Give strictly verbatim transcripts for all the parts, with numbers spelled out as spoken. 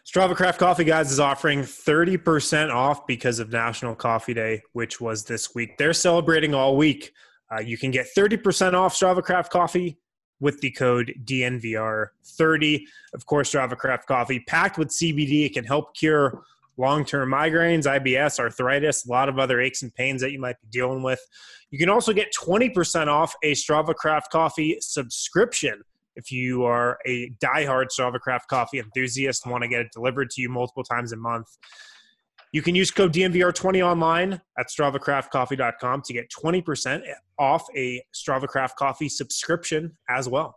Strava Craft Coffee, guys, is offering thirty percent off because of National Coffee Day, which was this week. They're celebrating all week. Uh, you can get thirty percent off Strava Craft Coffee with the code D N V R thirty. Of course, Strava Craft Coffee, packed with C B D. It can help cure long-term migraines, I B S, arthritis, a lot of other aches and pains that you might be dealing with. You can also get twenty percent off a Strava Craft Coffee subscription. If you are a diehard Strava Craft Coffee enthusiast and want to get it delivered to you multiple times a month, you can use code D N V R twenty online at strava craft coffee dot com to get twenty percent off a Strava Craft Coffee subscription as well.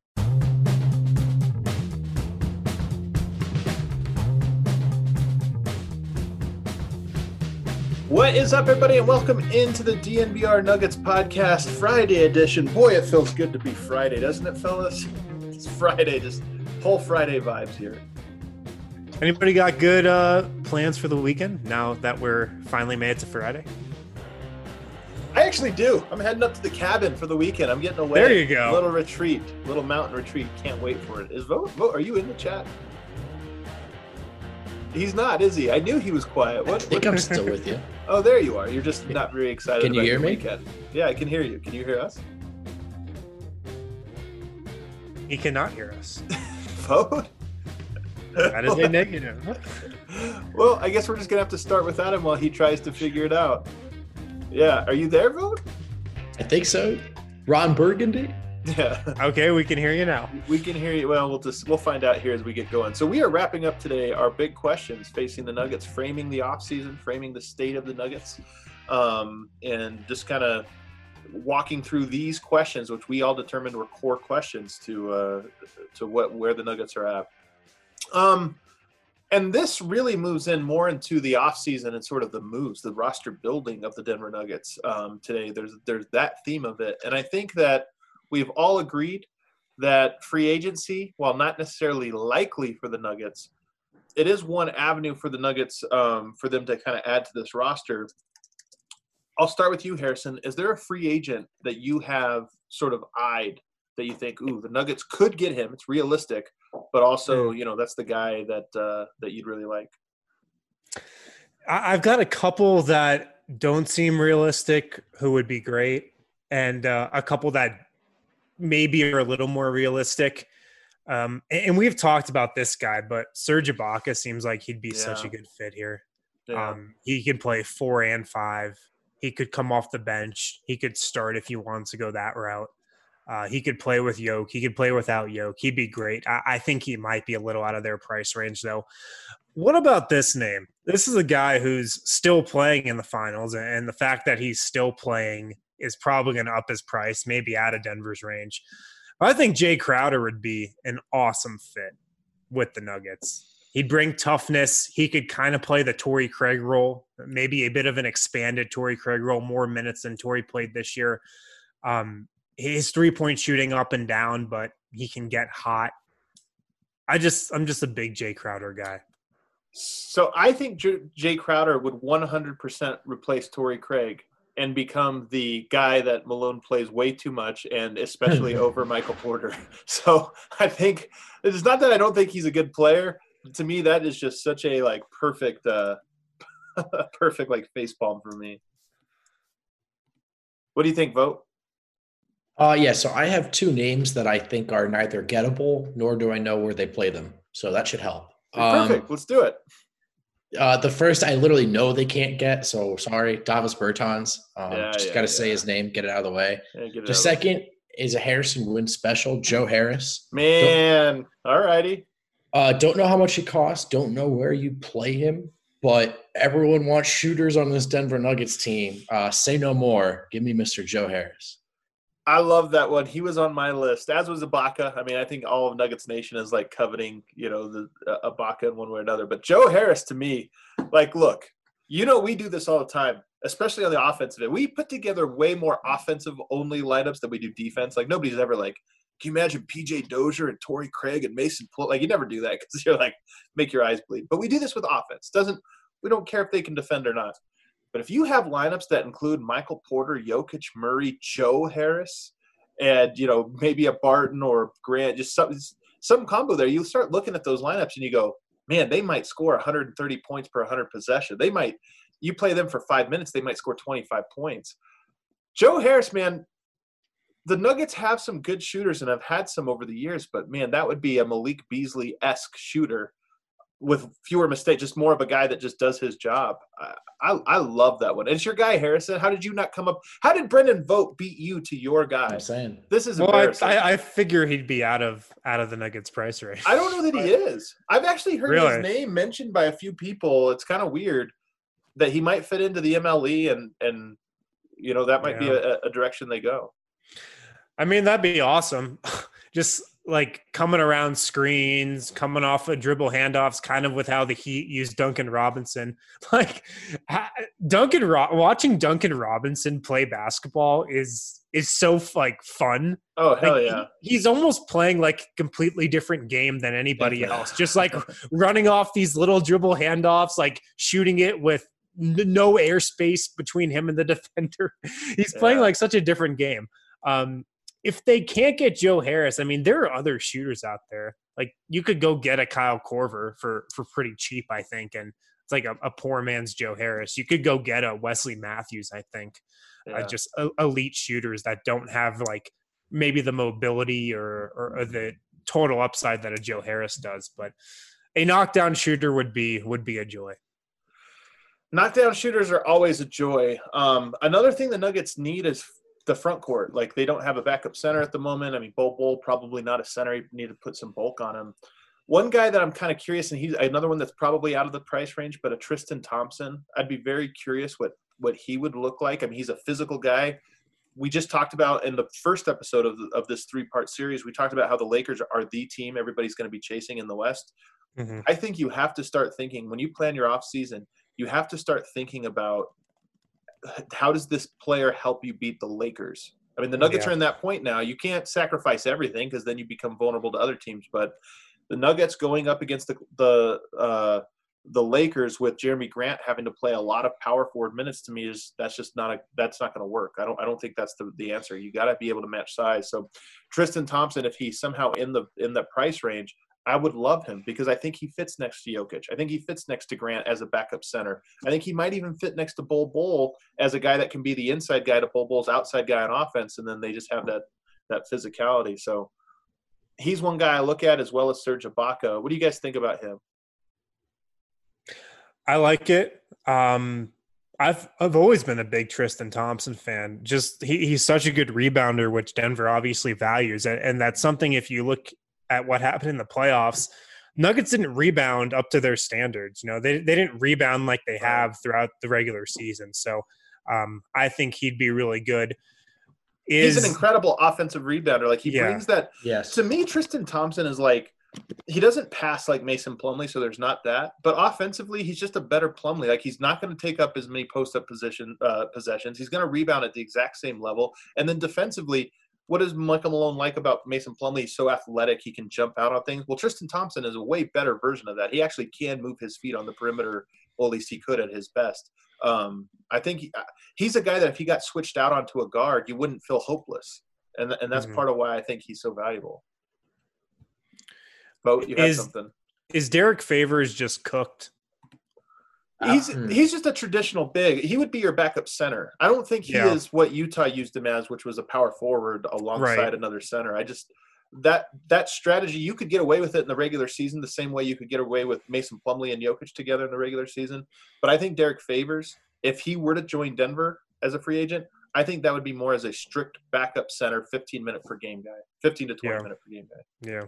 What is up, everybody, and welcome into the D N V R Nuggets Podcast Friday edition. Boy, it feels good to be Friday, doesn't it, fellas? It's Friday, just whole Friday vibes here. Anybody got good uh, plans for the weekend now that we're finally made it to Friday? I actually do. I'm heading up to the cabin for the weekend. I'm getting away. There you go. A little retreat, a little mountain retreat. Can't wait for it. Is Vote? Vote? Are you in the chat? He's not, is he? I knew he was quiet. What? I think what? I'm still with you. Oh, there you are. You're just not very excited. Can you about hear your me? Weekend. Yeah, I can hear you. Can you hear us? He cannot hear us. Vote? That is a negative. Well, I guess we're just going to have to start without him while he tries to figure it out. Yeah. Are you there, Vote? I think so. Ron Burgundy? Yeah. Okay, we can hear you now. We can hear you. Well, we'll just we'll find out here as we get going. So we are wrapping up today our big questions facing the Nuggets, framing the offseason, framing the state of the Nuggets, um, and just kind of walking through these questions, which we all determined were core questions to uh, to what where the Nuggets are at. Um, and this really moves in more into the offseason and sort of the moves, the roster building of the Denver Nuggets um, today. There's there's that theme of it, and I think that we've all agreed that free agency, while not necessarily likely for the Nuggets, it is one avenue for the Nuggets um, for them to kind of add to this roster. I'll start with you, Harrison. Is there a free agent that you have sort of eyed that you think, ooh, the Nuggets could get him? It's realistic, but also, you know, that's the guy that uh, that you'd really like. I've got a couple that don't seem realistic who would be great, and uh, a couple that maybe are a little more realistic. Um, and, and we've talked about this guy, but Serge Ibaka seems like he'd be Yeah. such a good fit here. Yeah. Um, he could play four and five. He could come off the bench. He could start if he wants to go that route. Uh, he could play with Yoke. He could play without Yoke. He'd be great. I, I think he might be a little out of their price range, though. What about this name? This is a guy who's still playing in the finals, and the fact that he's still playing is probably going to up his price, maybe out of Denver's range. I think Jay Crowder would be an awesome fit with the Nuggets. He'd bring toughness. He could kind of play the Torrey Craig role, maybe a bit of an expanded Torrey Craig role, more minutes than Torrey played this year. Um, his three-point shooting up and down, but he can get hot. I just, I'm just a big Jay Crowder guy. So I think J- Jay Crowder would one hundred percent replace Torrey Craig and become the guy that Malone plays way too much, and especially over Michael Porter. So I think it's not that I don't think he's a good player. To me, that is just such a like perfect, uh, perfect like facepalm for me. What do you think, Vote? Uh, yeah, so I have two names that I think are neither gettable, nor do I know where they play them. So that should help. Perfect. Um, Let's do it. Uh, the first, I literally know they can't get, so sorry, Davis Bertans. Um, Yeah, just yeah, got to yeah. say his name, get it out of the way. Yeah, get it The out. second is a Harrison Wind special, Joe Harris. Man, all righty. Uh, don't know how much it costs. Don't know where you play him, but everyone wants shooters on this Denver Nuggets team. Uh, say no more. Give me Mister Joe Harris. I love that one. He was on my list, as was Ibaka. I mean, I think all of Nuggets Nation is like coveting, you know, the uh, Ibaka in one way or another. But Joe Harris, to me, like, look, you know, we do this all the time, especially on the offensive end. We put together way more offensive-only lineups than we do defense. Like, nobody's ever like, can you imagine P J Dozier and Torrey Craig and Mason Plumlee? Like, you never do that because you're like, make your eyes bleed. But we do this with offense. Doesn't we don't care if they can defend or not. But if you have lineups that include Michael Porter, Jokic, Murray, Joe Harris, and, you know, maybe a Barton or Grant, just some, some combo there, you start looking at those lineups and you go, man, they might score one hundred thirty points per one hundred possession. They might – you play them for five minutes, they might score twenty-five points. Joe Harris, man, the Nuggets have some good shooters and have had some over the years, but, man, that would be a Malik Beasley-esque shooter with fewer mistakes, just more of a guy that just does his job. I, I, I love that one. And it's your guy, Harrison. How did you not come up – how did Brendan Vogt beat you to your guy? I'm saying. This is well, embarrassing. I, I figure he'd be out of out of the Nuggets price range. I don't know that he is. I've actually heard Really? his name mentioned by a few people. It's kind of weird that he might fit into the M L E and, and you know, that might Yeah. be a, a direction they go. I mean, that'd be awesome. Just like coming around screens, coming off of dribble handoffs, kind of with how the Heat used Duncan Robinson. Like ha- Duncan, Ro- watching Duncan Robinson play basketball is is so like fun. Oh, hell Like, yeah. he- he's almost playing like a completely different game than anybody else. Just like running off these little dribble handoffs, like shooting it with n- no airspace between him and the defender. He's playing Yeah. like such a different game. Um, if they can't get Joe Harris, I mean, there are other shooters out there. Like you could go get a Kyle Korver for for pretty cheap, I think, and it's like a, a poor man's Joe Harris. You could go get a Wesley Matthews, I think. Yeah. Uh, just uh, elite shooters that don't have like maybe the mobility or, or or the total upside that a Joe Harris does. But a knockdown shooter would be would be a joy. Knockdown shooters are always a joy. Um, another thing the Nuggets need is the front court. Like they don't have a backup center at the moment. I mean, Bol Bol probably not a center. You need to put some bulk on him. One guy that I'm kind of curious, and he's another one that's probably out of the price range, but a Tristan Thompson. I'd be very curious what what he would look like. I mean, he's a physical guy. We just talked about in the first episode of the, of this three-part series, we talked about how the Lakers are the team everybody's going to be chasing in the West. Mm-hmm. I think you have to start thinking, when you plan your offseason, you have to start thinking about how does this player help you beat the Lakers? I mean, the Nuggets Yeah. are in that point now. You can't sacrifice everything because then you become vulnerable to other teams. But the Nuggets going up against the the uh, the Lakers with Jeremy Grant having to play a lot of power forward minutes, to me is that's just not a that's not going to work. I don't I don't think that's the, the answer. You got to be able to match size. So Tristan Thompson, if he's somehow in the in the price range, I would love him because I think he fits next to Jokic. I think he fits next to Grant as a backup center. I think he might even fit next to Bol Bol as a guy that can be the inside guy to Bol Bol's outside guy on offense, and then they just have that that physicality. So he's one guy I look at, as well as Serge Ibaka. What do you guys think about him? I like it. Um, I've I've always been a big Tristan Thompson fan. Just he, he's such a good rebounder, which Denver obviously values, and, and that's something. If you look at what happened in the playoffs, Nuggets didn't rebound up to their standards. You know, they they didn't rebound like they have throughout the regular season. So um, I think he'd be really good. Is, He's an incredible offensive rebounder. Like he Yeah. brings that. Yes. To me, Tristan Thompson is like, he doesn't pass like Mason Plumlee, so there's not that. But offensively, he's just a better Plumlee. Like he's not going to take up as many post-up position uh, possessions. He's going to rebound at the exact same level. And then defensively, what does Michael Malone like about Mason Plumlee? He's so athletic, he can jump out on things. Well, Tristan Thompson is a way better version of that. He actually can move his feet on the perimeter, or at least he could at his best. Um, I think he, he's a guy that if he got switched out onto a guard, you wouldn't feel hopeless. And, and that's Mhm. part of why I think he's so valuable. Bo, you had Is- something. is Derek Favors just cooked? He's Hmm. he's just a traditional big. He would be your backup center. I don't think he Yeah. is what Utah used him as, which was a power forward alongside Right. another center. I just that that strategy, you could get away with it in the regular season the same way you could get away with Mason Plumlee and Jokic together in the regular season. But I think Derek Favors, if he were to join Denver as a free agent, I think that would be more as a strict backup center, fifteen minute per game guy, fifteen to twenty Yeah. minute per game guy. Yeah.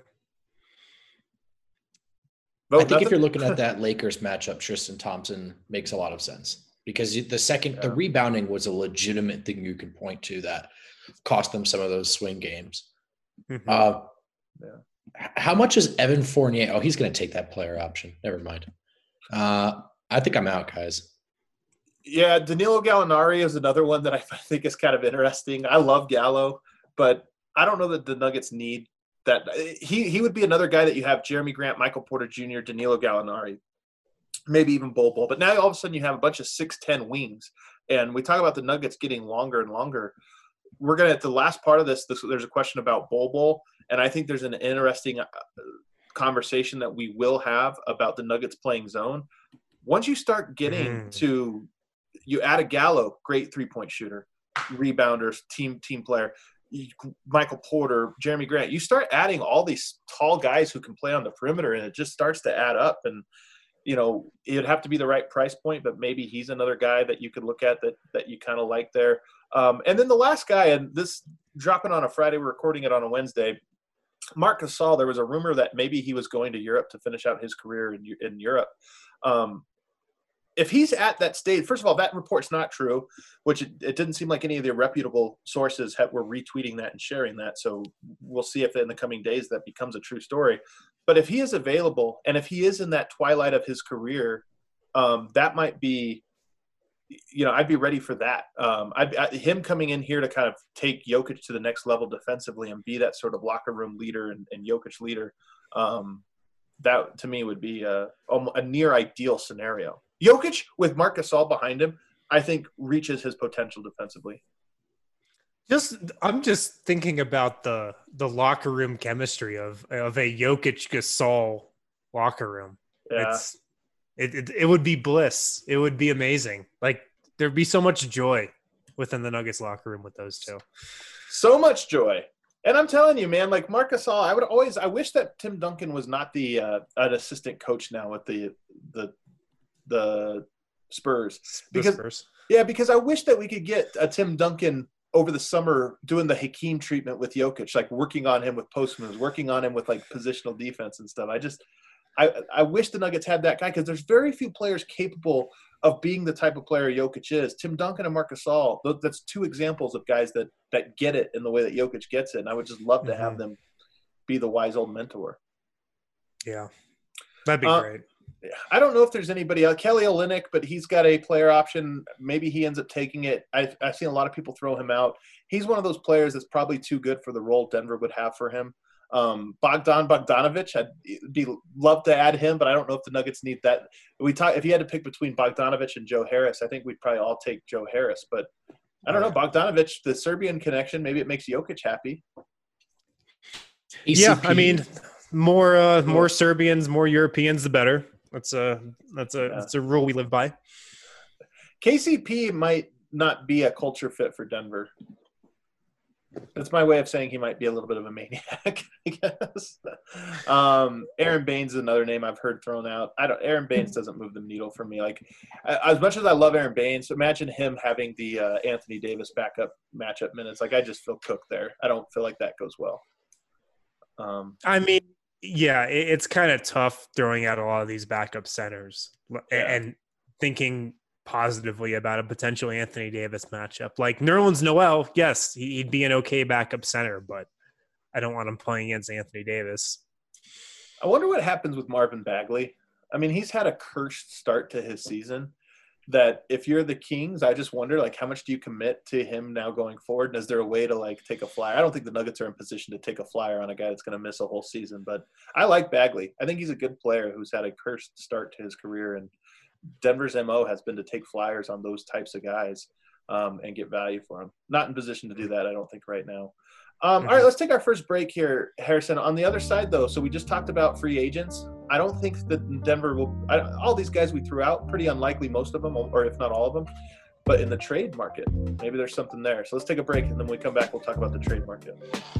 Bo, I think nothing? if you're looking at that Lakers matchup, Tristan Thompson makes a lot of sense because you- the second the Yeah. rebounding was a legitimate thing you can point to that cost them some of those swing games. Mhm. Uh, Yeah. h- How much is Evan Fournier? Oh, he's going to take that player option. Never mind. Uh, I think I'm out, guys. Yeah, Danilo Gallinari is another one that I think is kind of interesting. I love Gallo, but I don't know that the Nuggets need that. He he would be another guy that you have Jeremy Grant, Michael Porter Junior, Danilo Gallinari, maybe even Bol Bol. But now all of a sudden you have a bunch of six ten wings, and we talk about the Nuggets getting longer and longer. We're gonna at the last part of this. this there's a question about Bol Bol, and I think there's an interesting uh, conversation that we will have about the Nuggets playing zone. Once you start getting mm. to, you add a Gallo, great three-point shooter, rebounder, team team player, Michael Porter, Jeremy Grant. You start adding all these tall guys who can play on the perimeter, and it just starts to add up. And you know, it'd have to be the right price point, but maybe he's another guy that you could look at that that you kind of like there. Um, and then the last guy, and this dropping on a Friday, we're recording it on a Wednesday. Marc Gasol, there was a rumor that maybe he was going to Europe to finish out his career in, in Europe. Um, if he's at that stage, first of all, that report's not true, which it, it didn't seem like any of the reputable sources have, were retweeting that and sharing that. So we'll see if in the coming days that becomes a true story. But if he is available and if he is in that twilight of his career, um, that might be, you know, I'd be ready for that. Um, I'd, I, him coming in here to kind of take Jokic to the next level defensively and be that sort of locker room leader and, and Jokic leader. Um, that to me would be a, a near ideal scenario. Jokic with Marc Gasol behind him, I think reaches his potential defensively. Just, I'm just thinking about the the locker room chemistry of of a Jokic Gasol locker room. Yeah. It's it, it it would be bliss. It would be amazing. Like there'd be so much joy within the Nuggets locker room with those two. So much joy. And I'm telling you, man, like Marc Gasol, I would always I wish that Tim Duncan was not the uh, an assistant coach now with the the the Spurs. Because the Spurs. Yeah, because I wish that we could get a Tim Duncan over the summer doing the Hakeem treatment with Jokic, like working on him with post moves, working on him with like positional defense and stuff. I just, I, I wish the Nuggets had that guy because there's very few players capable of being the type of player Jokic is. Tim Duncan and Marc Gasol, that's two examples of guys that that get it in the way that Jokic gets it. And I would just love to mm-hmm. have them be the wise old mentor. Yeah, that'd be uh, great. I don't know if there's anybody else. Kelly Olynyk, but he's got a player option. Maybe he ends up taking it. I've, I've seen a lot of people throw him out. He's one of those players that's probably too good for the role Denver would have for him. Um, Bogdan Bogdanovic, I'd be love to add him, but I don't know if the Nuggets need that. We talk if you had to pick between Bogdanovic and Joe Harris, I think we'd probably all take Joe Harris. But I don't know, Bogdanovic, the Serbian connection, maybe it makes Jokic happy. E C P. Yeah, I mean, more uh, more Serbians, more Europeans, the better. That's a that's a yeah. that's a rule we live by. K C P might not be a culture fit for Denver. That's my way of saying he might be a little bit of a maniac, I guess. Um, Aaron Baines is another name I've heard thrown out. I don't. Aaron Baines doesn't move the needle for me. Like as much as I love Aaron Baines, imagine him having the uh, Anthony Davis backup matchup minutes. Like I just feel cooked there. I don't feel like that goes well. Um, I mean. Yeah, it's kind of tough throwing out a lot of these backup centers yeah. and thinking positively about a potential Anthony Davis matchup. Like Nerlens Noel, yes, he'd be an okay backup center, but I don't want him playing against Anthony Davis. I wonder what happens with Marvin Bagley. I mean, he's had a cursed start to his season that if you're the Kings, I just wonder, like, how much do you commit to him now going forward? And is there a way to, like, take a flyer? I don't think the Nuggets are in position to take a flyer on a guy that's going to miss a whole season. But I like Bagley. I think he's a good player who's had a cursed start to his career. And Denver's M O has been to take flyers on those types of guys um, and get value for them. Not in position to do that, I don't think, right now. Um, all right, let's take our first break here, Harrison. On the other side, though, so we just talked about free agents. I don't think that Denver will I, – all these guys we threw out, pretty unlikely, most of them, or if not all of them. But in the trade market, maybe there's something there. So let's take a break, and then when we come back, we'll talk about the trade market.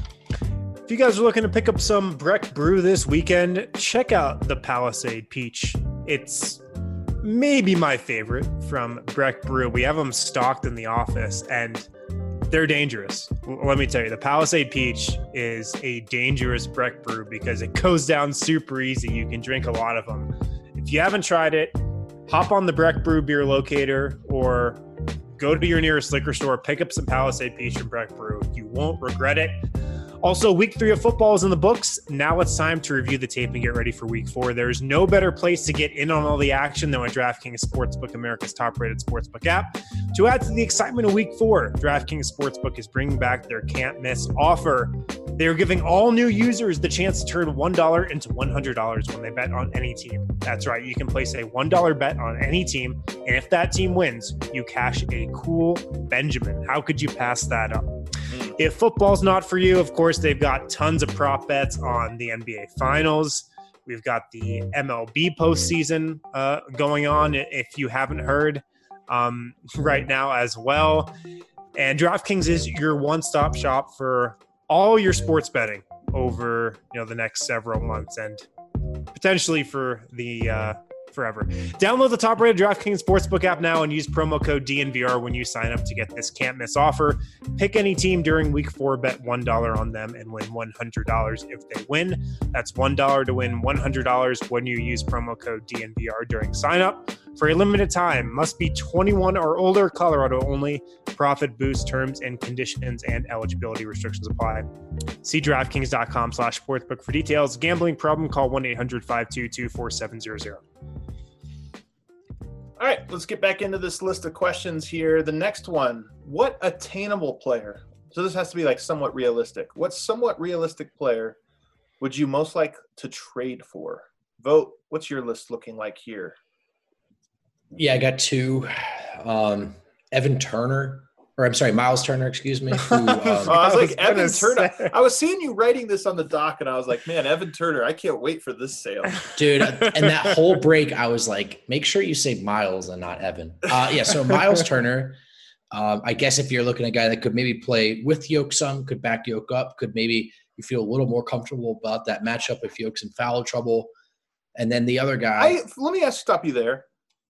If you guys are looking to pick up some Breck Brew this weekend, check out the Palisade Peach. It's maybe my favorite from Breck Brew. We have them stocked in the office, and – they're dangerous. Let me tell you, the Palisade Peach is a dangerous Breck brew because it goes down super easy. You can drink a lot of them. If you haven't tried it, hop on the Breck Brew beer locator or go to your nearest liquor store, pick up some Palisade Peach from Breck Brew. You won't regret it. Also, week three of football is in the books. Now it's time to review the tape and get ready for week four. There's no better place to get in on all the action than with DraftKings Sportsbook, America's top-rated sportsbook app. To add to the excitement of week four, DraftKings Sportsbook is bringing back their can't-miss offer. They are giving all new users the chance to turn one dollar into one hundred dollars when they bet on any team. That's right. You can place a one dollar bet on any team, and if that team wins, you cash a cool Benjamin. How could you pass that up? If football's not for you, of course, they've got tons of prop bets on the N B A Finals, We've got the M L B postseason uh, going on, if you haven't heard, um, right now as well. And DraftKings is your one-stop shop for all your sports betting over, you know, the next several months and potentially for the uh, forever. Download the top-rated DraftKings Sportsbook app now and use promo code D N V R when you sign up to get this can't-miss offer. Pick any team during Week four, bet one dollar on them, and win one hundred dollars if they win. That's one dollar to win one hundred dollars when you use promo code D N V R during sign-up. For a limited time, must be twenty-one or older, Colorado only. Profit boost terms and conditions and eligibility restrictions apply. See DraftKings.com slash sportsbook for details. Gambling problem, call one eight hundred five two two four seven zero zero. All right, let's get back into this list of questions here. The next one, what attainable player? So this has to be like somewhat realistic. What somewhat realistic player would you most like to trade for? Vote. What's your list looking like here? Yeah, I got two. Um, Evan Turner, or I'm sorry, Miles Turner, excuse me. Who, um, oh, I was like, I was Evan Turner. say. I was seeing you writing this on the doc, and I was like, man, Evan Turner, I can't wait for this sale. Dude, and that whole break, I was like, make sure you say Miles and not Evan. Uh, yeah, so Miles Turner, um, I guess if you're looking at a guy that could maybe play with Yoke some, could back Yoke up, could maybe you feel a little more comfortable about that matchup if Yoke's in foul trouble. And then the other guy. I, let me ask, stop you there.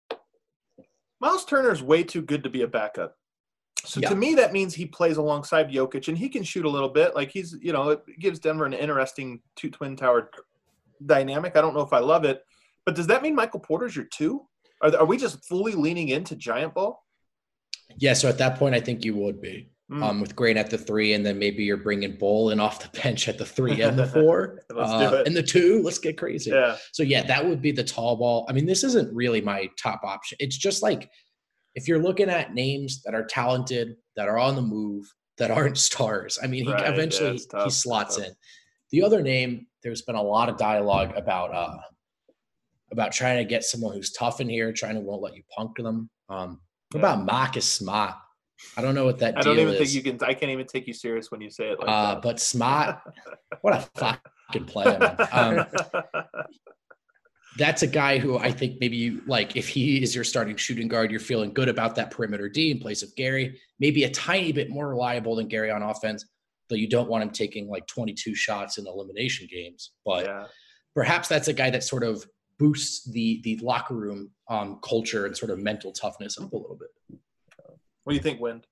Miles Turner is way too good to be a backup. So yeah. to me, that means he plays alongside Jokic, and he can shoot a little bit. Like he's, you know, it gives Denver an interesting two twin tower dynamic. I don't know if I love it, but does that mean Michael Porter's your two? Are, are we just fully leaning into giant ball? Yeah, so at that point, I think you would be mm. um, with Grant at the three, and then maybe you're bringing Bull in off the bench at the three and the four. Let's uh, do it. And the two, let's get crazy. Yeah. So, yeah, that would be the tall ball. I mean, this isn't really my top option. It's just like if you're looking at names that are talented, that are on the move, that aren't stars, I mean, he right. eventually yeah, he slots in. The other name, there's been a lot of dialogue about uh, about trying to get someone who's tough in here, trying to won't let you punk them. Um, what yeah. about Marcus Smart? I don't know what that I deal don't even is. think you can. I can't even take you serious when you say it like uh, that. But Smart, what a fucking player, man. Um, that's a guy who I think maybe you like. If he is your starting shooting guard, you're feeling good about that perimeter D in place of Gary. Maybe a tiny bit more reliable than Gary on offense, though you don't want him taking like twenty-two shots in elimination games. But yeah. perhaps that's a guy that sort of boosts the the locker room um, culture and sort of mental toughness up a little bit. What do you think, Wind?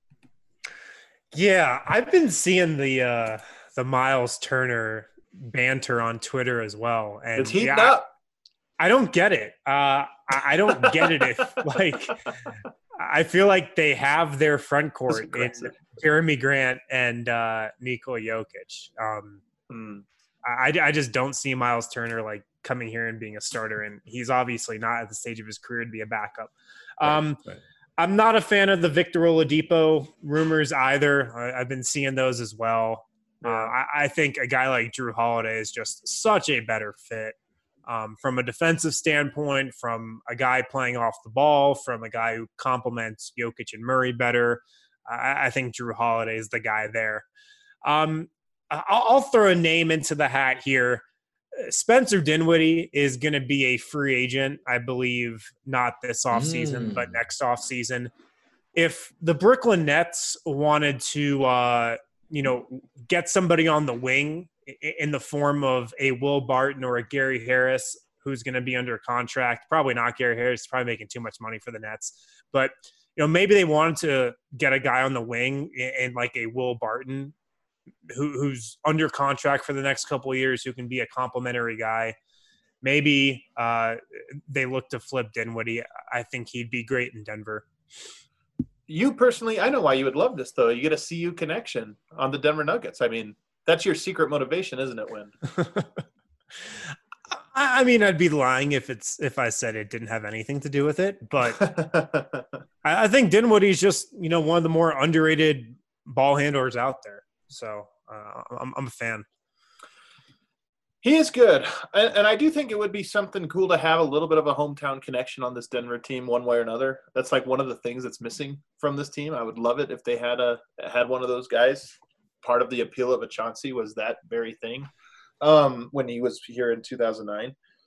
Yeah, I've been seeing the uh, the Miles Turner banter on Twitter as well, and it's heating yeah, up. I, I don't get it. Uh, I, I don't get it. If like, I feel like they have their front court in Jeremy Grant and uh, Nikola Jokic. Um, hmm. I, I just don't see Miles Turner like coming here and being a starter, and he's obviously not at the stage of his career to be a backup. Um, right, right. I'm not a fan of the Victor Oladipo rumors either. I, I've been seeing those as well. Uh, I, I think a guy like Drew Holiday is just such a better fit um, from a defensive standpoint, from a guy playing off the ball, from a guy who complements Jokic and Murray better. I, I think Drew Holiday is the guy there. Um, I'll, I'll throw a name into the hat here. Spencer Dinwiddie is going to be a free agent, I believe, not this offseason, mm. but next offseason. If the Brooklyn Nets wanted to, uh, you know, get somebody on the wing in the form of a Will Barton or a Gary Harris, who's going to be under contract, probably not Gary Harris, probably making too much money for the Nets. But, you know, maybe they wanted to get a guy on the wing in, in like a Will Barton, Who, who's under contract for the next couple of years, who can be a complimentary guy. Maybe uh, they look to flip Dinwiddie. I think he'd be great in Denver. You personally, I know why you would love this, though. You get a C U connection on the Denver Nuggets. I mean, that's your secret motivation, isn't it, Win? I mean, I'd be lying if it's if I said it didn't have anything to do with it. But I, I think Dinwiddie's just, you know, one of the more underrated ball handlers out there. So uh, I'm, I'm a fan. He is good. And, and I do think it would be something cool to have a little bit of a hometown connection on this Denver team one way or another. That's like one of the things that's missing from this team. I would love it if they had a had one of those guys. Part of the appeal of a Chauncey was that very thing um, when he was here in two thousand nine.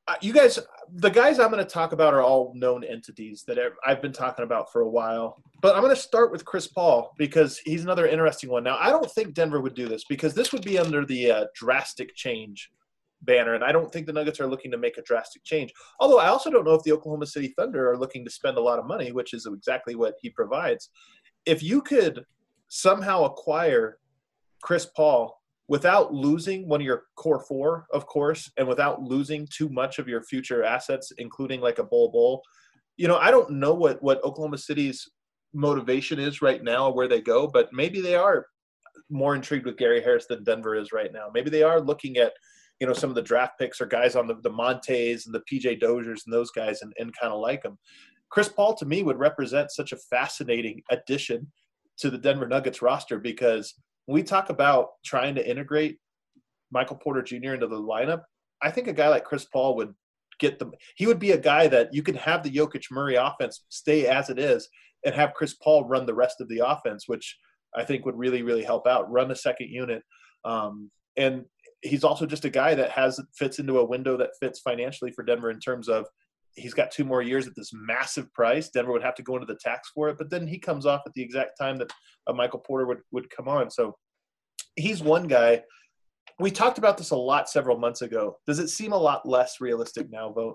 Uh, you guys, the guys I'm going to talk about are all known entities that I've been talking about for a while. But I'm going to start with Chris Paul because he's another interesting one. Now, I don't think Denver would do this because this would be under the uh, drastic change banner, and I don't think the Nuggets are looking to make a drastic change. Although I also don't know if the Oklahoma City Thunder are looking to spend a lot of money, which is exactly what he provides. If you could somehow acquire Chris Paul without losing one of your core four, of course, and without losing too much of your future assets, including like a Bol Bol, you know, I don't know what, what Oklahoma City's motivation is right now or where they go, but maybe they are more intrigued with Gary Harris than Denver is right now. Maybe they are looking at, you know, some of the draft picks or guys on the, the Montes and the P J Doziers and those guys and, and kind of like them. Chris Paul, to me, would represent such a fascinating addition to the Denver Nuggets roster because when we talk about trying to integrate Michael Porter Junior into the lineup, I think a guy like Chris Paul would get them. He would be a guy that you can have the Jokic Murray offense stay as it is and have Chris Paul run the rest of the offense, which I think would really, really help out. Run a second unit. Um, and he's also just a guy that has fits into a window that fits financially for Denver in terms of he's got two more years at this massive price. Denver would have to go into the tax for it, but then he comes off at the exact time that uh, Michael Porter would, would come on. So he's one guy. We talked about this a lot several months ago. Does it seem a lot less realistic now, Vogt?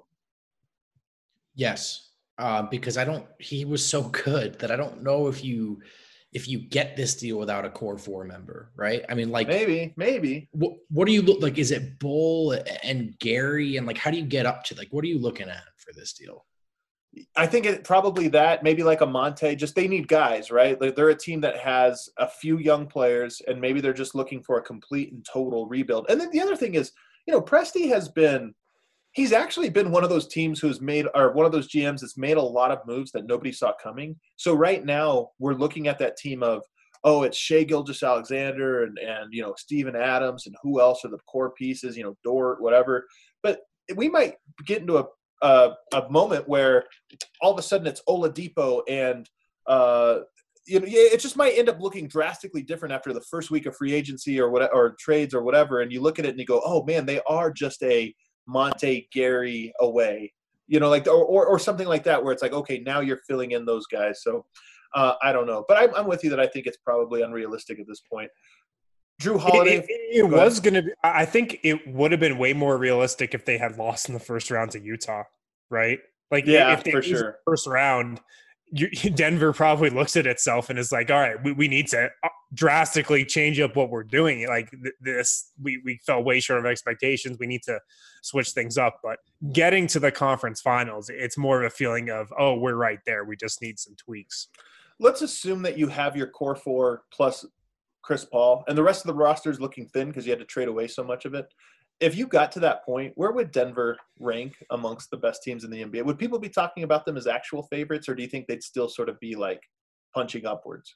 Yes, uh, because I don't. He was so good that I don't know if you if you get this deal without a core four member, right? I mean, like maybe, maybe. What what do you look like? Is it Bull and Gary and like how do you get up to like what are you looking at for this deal? I think it probably that maybe like a Monte. Just they need guys, right? They're, they're a team that has a few young players, and maybe they're just looking for a complete and total rebuild. And then the other thing is, you know, Presti has been. He's actually been one of those teams who's made, or one of those G Ms that's made a lot of moves that nobody saw coming. So right now we're looking at that team of, oh, it's Shai Gilgeous-Alexander and, and, you know, Steven Adams and who else are the core pieces, you know, Dort, whatever. But we might get into a, a, a moment where all of a sudden it's Oladipo and, uh, you know, it just might end up looking drastically different after the first week of free agency or what, or trades or whatever. And you look at it and you go, oh man, they are just a Monte Gary away, you know, like, or, or, or something like that, where it's like, okay, now you're filling in those guys. So uh, I don't know, but I'm, I'm with you that I think it's probably unrealistic at this point. Jrue Holiday. It, it, it was going to be, I think it would have been way more realistic if they had lost in the first round to Utah, right? Like, yeah, if they for lose sure. the first round, you, Denver probably looks at itself and is like, all right, we, we need to drastically change up what we're doing. Like th- this, we, we fell way short of expectations. We need to switch things up. But getting to the conference finals, it's more of a feeling of, oh, we're right there. We just need some tweaks. Let's assume that you have your core four plus Chris Paul, and the rest of the roster is looking thin because you had to trade away so much of it. If you got to that point, where would Denver rank amongst the best teams in the N B A? Would people be talking about them as actual favorites, or do you think they'd still sort of be like punching upwards?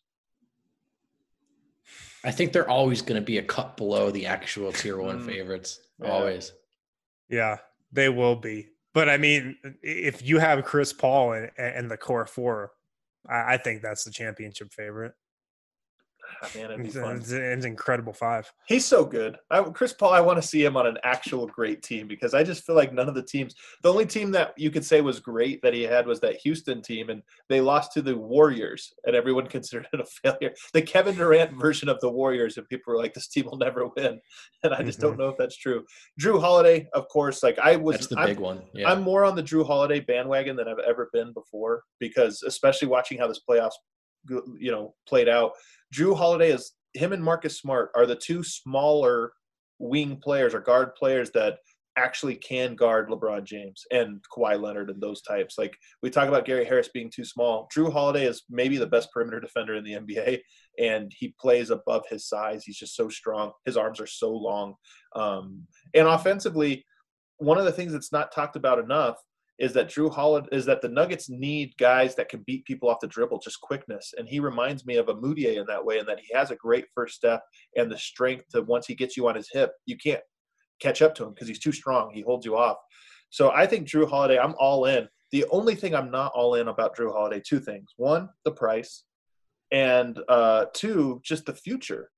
I think they're always going to be a cut below the actual tier one mm, favorites. Yeah. Always. Yeah, they will be. But I mean, if you have Chris Paul and, and the core four, I, I think that's the championship favorite. Oh, man, it'd be it's, fun. It's, it's an incredible five. He's so good. I, Chris Paul, I want to see him on an actual great team because I just feel like none of the teams – the only team that you could say was great that he had was that Houston team, and they lost to the Warriors, and everyone considered it a failure. The Kevin Durant version of the Warriors, and people were like, this team will never win. And I just mm-hmm. don't know if that's true. Jrue Holiday, of course, like I was – That's the I'm, big one. Yeah. I'm more on the Jrue Holiday bandwagon than I've ever been before because especially watching how this playoffs, you know, played out. Jrue Holiday is – him and Marcus Smart are the two smaller wing players or guard players that actually can guard LeBron James and Kawhi Leonard and those types. Like we talk about Gary Harris being too small. Jrue Holiday is maybe the best perimeter defender in the N B A, and he plays above his size. He's just so strong. His arms are so long. Um, and offensively, one of the things that's not talked about enough is that Jrue Holiday is that the Nuggets need guys that can beat people off the dribble, just quickness. And he reminds me of a Mudiay in that way, in that he has a great first step and the strength to once he gets you on his hip, you can't catch up to him because he's too strong. He holds you off. So I think Jrue Holiday, I'm all in. The only thing I'm not all in about Jrue Holiday, two things. One, the price. And uh, two, just the future.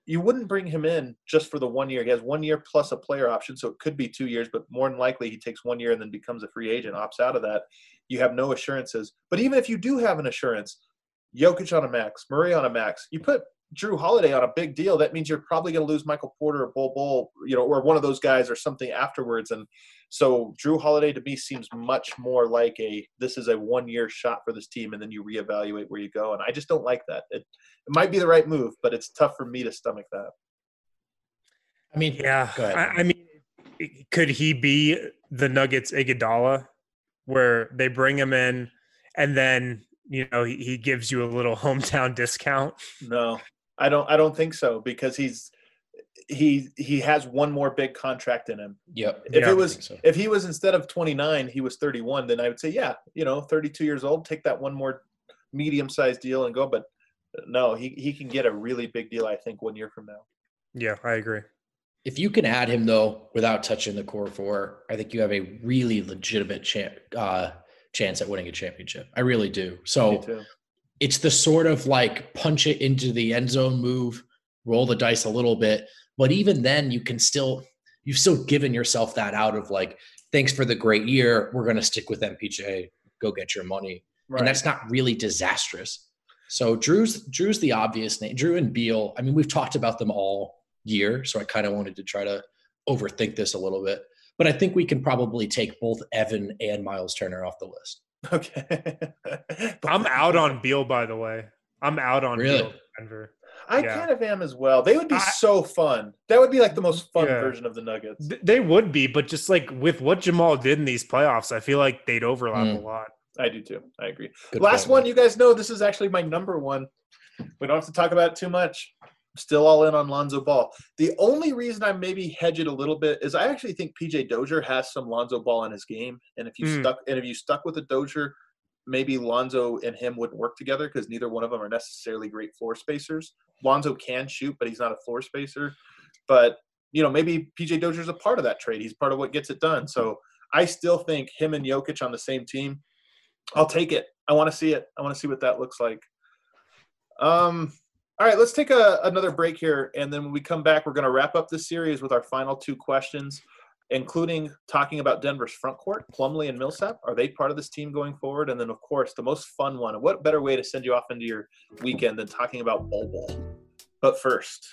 you wouldn't bring him in just for the one year. He has one year plus a player option, so it could be two years, but more than likely he takes one year and then becomes a free agent, opts out of that. You have no assurances. But even if you do have an assurance, Jokic on a max, Murray on a max, you put Drew Holiday on a big deal, that means you're probably going to lose Michael Porter or Bol Bol, you know, or one of those guys or something afterwards. And so Drew Holiday to me seems much more like a, this is a one-year shot for this team, and then you reevaluate where you go. And I just don't like that. It, it might be the right move, but it's tough for me to stomach that. I mean, yeah, I, I mean, could he be the Nuggets Iguodala, where they bring him in and then, you know, he, he gives you a little hometown discount? No, I don't. I don't think so, because he's he he has one more big contract in him. Yep. If yeah, it was so. if he was instead of twenty-nine, he was thirty-one, then I would say, yeah, you know, thirty-two years old, take that one more medium-sized deal and go. But no, he he can get a really big deal, I think, one year from now. Yeah, I agree. If you can add him, though, without touching the core four, I think you have a really legitimate chance uh, chance at winning a championship. I really do. So it's the sort of like punch it into the end zone move, roll the dice a little bit. But even then, you can still – you've still given yourself that out of like, thanks for the great year. We're going to stick with M P J. Go get your money. Right. And that's not really disastrous. So Drew's Drew's the obvious name. Drew and Beal, I mean, we've talked about them all year, so I kind of wanted to try to overthink this a little bit. But I think we can probably take both Evan and Miles Turner off the list. Okay. I'm out on Beal, by the way. I'm out on really? Beal Denver. I yeah. kind of am as well. They would be I, so fun. That would be like the most fun yeah. version of the Nuggets. They would be, but just like with what Jamal did in these playoffs, I feel like they'd overlap mm. a lot. I do too. I agree. Good Last point, one, man. you guys know this is actually my number one. We don't have to talk about it too much. Still all in on Lonzo Ball. The only reason I maybe hedge it a little bit is I actually think P J Dozier has some Lonzo Ball in his game, and if you mm. stuck and if you stuck with a Dozier, maybe Lonzo and him wouldn't work together because neither one of them are necessarily great floor spacers. Lonzo can shoot, but he's not a floor spacer. But you know, maybe P J Dozier's a part of that trade. He's part of what gets it done. So I still think him and Jokic on the same team. I'll take it. I want to see it. I want to see what that looks like. Um. All right, let's take a, another break here, and then when we come back, we're going to wrap up this series with our final two questions, including talking about Denver's front court, Plumlee and Millsap. Are they part of this team going forward? And then, of course, the most fun one. What better way to send you off into your weekend than talking about Bol Bol? But first.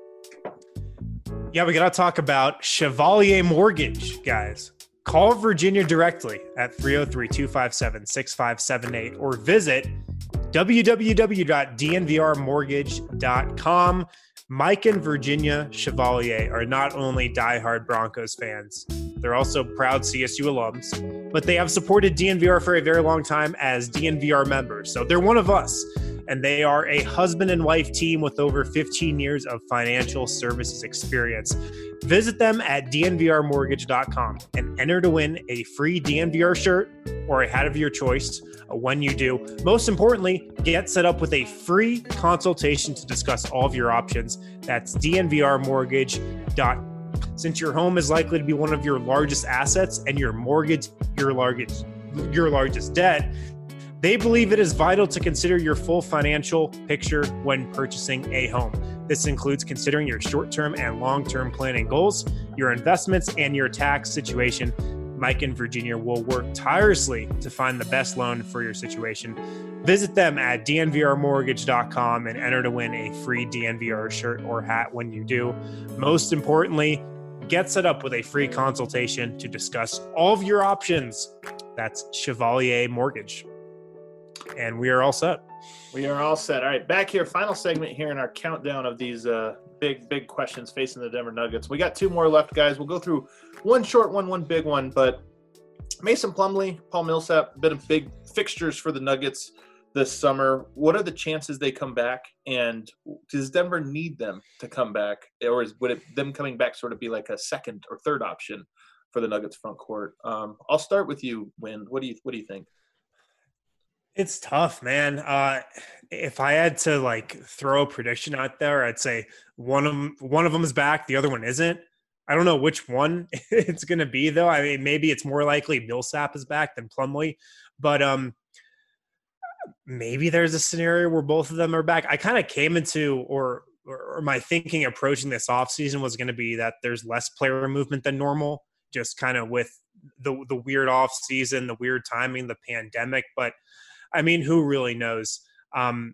Yeah, we got to talk about Chevalier Mortgage, guys. Call Virginia directly at three oh three, two five seven, six five seven eight or visit w w w dot d n v r mortgage dot com. Mike and Virginia Chevalier are not only diehard Broncos fans, they're also proud C S U alums, but they have supported D N V R for a very long time as D N V R members. So they're one of us, and they are a husband and wife team with over fifteen years of financial services experience. Visit them at d n v r mortgage dot com and enter to win a free D N V R shirt or a hat of your choice when you do. Most importantly, get set up with a free consultation to discuss all of your options. That's d n v r mortgage dot com. Since your home is likely to be one of your largest assets and your mortgage your largest your largest debt, they believe it is vital to consider your full financial picture when purchasing a home. This includes considering your short-term and long-term planning goals, your investments, and your tax situation. Mike and Virginia will work tirelessly to find the best loan for your situation. Visit them at d n v r mortgage dot com and enter to win a free D N V R shirt or hat when you do. Most importantly, get set up with a free consultation to discuss all of your options. That's Chevalier Mortgage. And we are all set. We are all set. All right, back here, final segment here in our countdown of these uh, big, big questions facing the Denver Nuggets. We got two more left, guys. We'll go through one short one, one big one. But Mason Plumlee, Paul Millsap, been a big fixtures for the Nuggets this summer. What are the chances they come back? And does Denver need them to come back? Or is, would it, them coming back sort of be like a second or third option for the Nuggets front court? Um, I'll start with you, Win. What do you What do you think? It's tough, man. Uh, if I had to like throw a prediction out there, I'd say one of them, one of them is back, the other one isn't. I don't know which one it's going to be, though. I mean, maybe it's more likely Millsap is back than Plumlee, but um, maybe there's a scenario where both of them are back. I kind of came into or or my thinking approaching this offseason was going to be that there's less player movement than normal, just kind of with the the weird offseason, the weird timing, the pandemic. But I mean, who really knows? Um,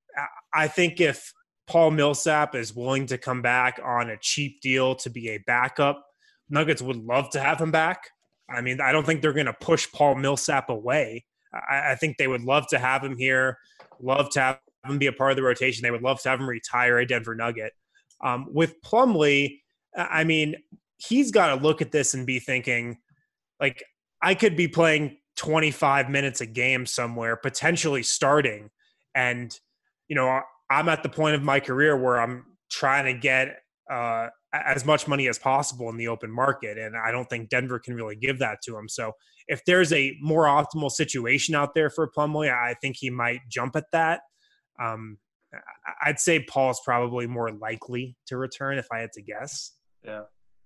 I think if Paul Millsap is willing to come back on a cheap deal to be a backup, Nuggets would love to have him back. I mean, I don't think they're going to push Paul Millsap away. I, I think they would love to have him here, love to have him be a part of the rotation. They would love to have him retire a Denver Nugget. Um, with Plumlee, I mean, he's got to look at this and be thinking, like, I could be playing twenty-five minutes a game somewhere, potentially starting. And, you know, I'm at the point of my career where I'm trying to get uh, as much money as possible in the open market. And I don't think Denver can really give that to him. So if there's a more optimal situation out there for Plumlee, I think he might jump at that. Um, I'd say Paul's probably more likely to return if I had to guess. Yeah,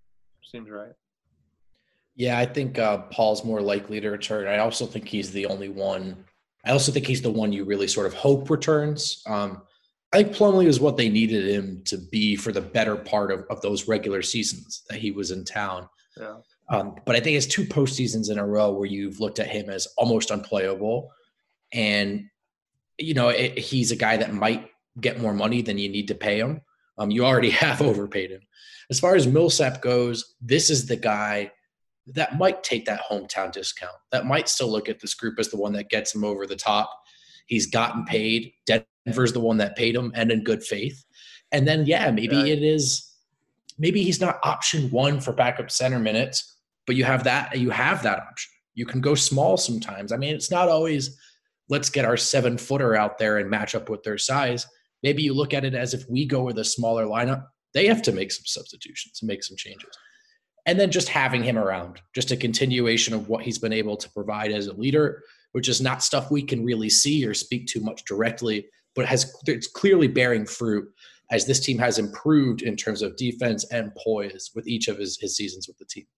seems right. Yeah, I think uh, Paul's more likely to return. I also think he's the only one. I also think he's the one you really sort of hope returns. Um, I think Plumlee is what they needed him to be for the better part of, of those regular seasons that he was in town. Yeah. Um, but I think it's two postseasons in a row where you've looked at him as almost unplayable. And, you know, it, he's a guy that might get more money than you need to pay him. Um, you already have overpaid him. As far as Millsap goes, this is the guy that might take that hometown discount, that might still look at this group as the one that gets him over the top. He's gotten paid. Denver's the one that paid him, and in good faith. And then, yeah, maybe yeah. it is, maybe he's not option one for backup center minutes, but you have that, you have that option. You can go small sometimes. I mean, it's not always, let's get our seven footer out there and match up with their size. Maybe you look at it as if we go with a smaller lineup, they have to make some substitutions and make some changes. And then just having him around, just a continuation of what he's been able to provide as a leader, which is not stuff we can really see or speak to much directly, but has it's clearly bearing fruit as this team has improved in terms of defense and poise with each of his, his seasons with the team.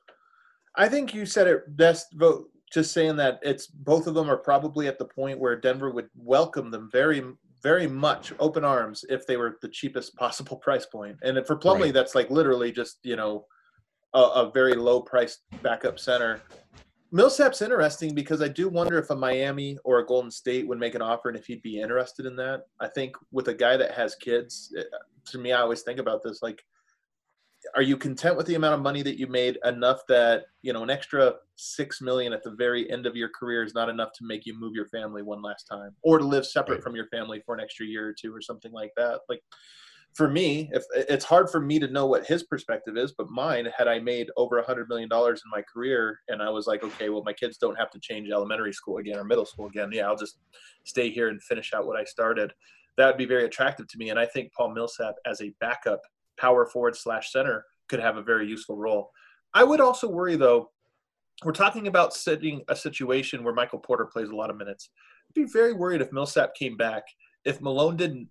I think you said it best, vote just saying that it's both of them are probably at the point where Denver would welcome them very, very much open arms if they were the cheapest possible price point. And for Plumlee, right. That's like literally just, you know, a, a very low priced backup center. Millsap's interesting because I do wonder if a Miami or a Golden State would make an offer and if he'd be interested in that. I think with a guy that has kids, to me, I always think about this, like, are you content with the amount of money that you made enough that, you know, an extra six million at the very end of your career is not enough to make you move your family one last time or to live separate right. from your family for an extra year or two or something like that? Like, for me, if it's hard for me to know what his perspective is, but mine, had I made over a hundred million dollars in my career and I was like, okay, well, my kids don't have to change elementary school again or middle school again. Yeah, I'll just stay here and finish out what I started. That would be very attractive to me. And I think Paul Millsap as a backup power forward slash center could have a very useful role. I would also worry, though, we're talking about setting a situation where Michael Porter plays a lot of minutes. I'd be very worried if Millsap came back, if Malone didn't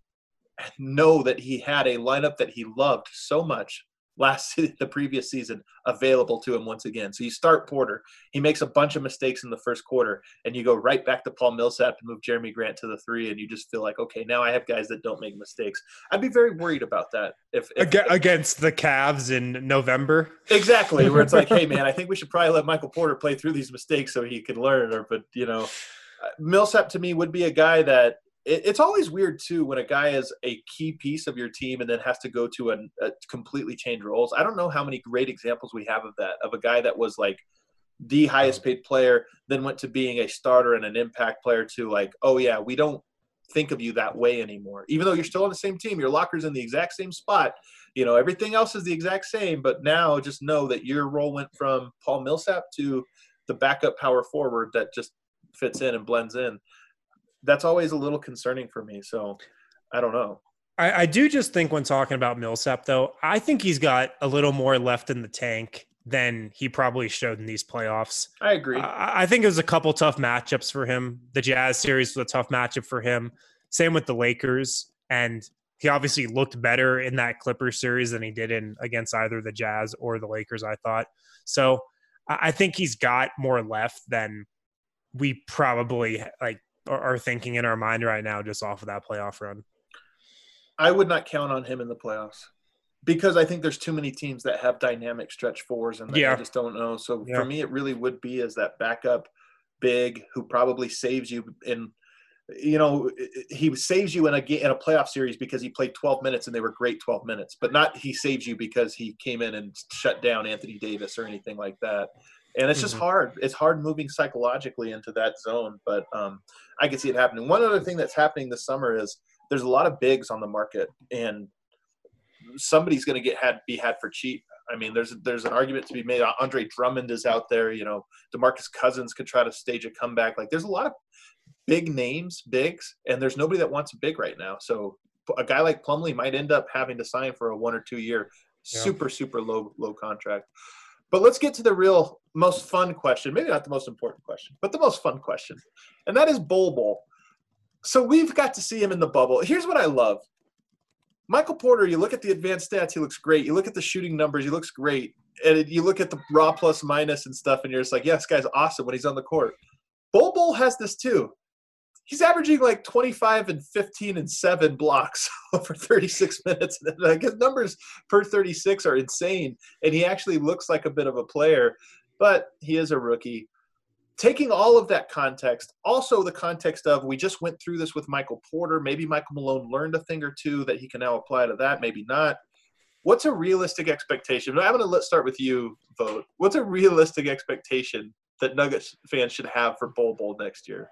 know that he had a lineup that he loved so much last the previous season available to him once again. So you start Porter, he makes a bunch of mistakes in the first quarter, and you go right back to Paul Millsap and move Jeremy Grant to the three, and you just feel like, okay, now I have guys that don't make mistakes. I'd be very worried about that if, if against the Cavs in November. Exactly, where it's like, hey man, I think we should probably let Michael Porter play through these mistakes so he could learn. Or, but you know, Millsap to me would be a guy that. It's always weird, too, when a guy is a key piece of your team and then has to go to a, a completely change roles. I don't know how many great examples we have of that, of a guy that was like the highest paid player, then went to being a starter and an impact player to like, oh, yeah, we don't think of you that way anymore. Even though you're still on the same team, your locker's in the exact same spot. You know, everything else is the exact same. But now just know that your role went from Paul Millsap to the backup power forward that just fits in and blends in. That's always a little concerning for me. So I don't know. I, I do just think when talking about Millsap, though, I think he's got a little more left in the tank than he probably showed in these playoffs. I agree. I, I think it was a couple tough matchups for him. The Jazz series was a tough matchup for him. Same with the Lakers. And he obviously looked better in that Clippers series than he did in against either the Jazz or the Lakers, I thought. So I, I think he's got more left than we probably like are thinking in our mind right now just off of that playoff run. I would not count on him in the playoffs because I think there's too many teams that have dynamic stretch fours, and Yeah. I just don't know. So Yeah. for me, it really would be as that backup big who probably saves you in, you know, he saves you in a ga- in a playoff series because he played twelve minutes and they were great twelve minutes, but not he saves you because he came in and shut down Anthony Davis or anything like that. And it's just Mhm. hard. It's hard moving psychologically into that zone, but um, I can see it happening. One other thing that's happening this summer is there's a lot of bigs on the market, and somebody's going to get had be had for cheap. I mean, there's there's an argument to be made. Andre Drummond is out there. You know, DeMarcus Cousins could try to stage a comeback. Like, there's a lot of big names, bigs, and there's nobody that wants a big right now. So a guy like Plumlee might end up having to sign for a one or two year Yeah. super super low low contract. But let's get to the real most fun question. Maybe not the most important question, but the most fun question, and that is Bol Bol. So we've got to see him in the bubble. Here's what I love. Michael Porter, you look at the advanced stats, he looks great. You look at the shooting numbers, he looks great. And you look at the raw plus minus and stuff, and you're just like, yeah, this guy's awesome when he's on the court. Bol Bol has this too. He's averaging like twenty-five and fifteen and seven blocks over thirty-six minutes. Like, his numbers per thirty-six are insane, and he actually looks like a bit of a player, but he is a rookie. Taking all of that context, also the context of we just went through this with Michael Porter. Maybe Michael Malone learned a thing or two that he can now apply to that. Maybe not. What's a realistic expectation? I'm going to let's start with you, Vogt. What's a realistic expectation that Nuggets fans should have for Bol Bol next year?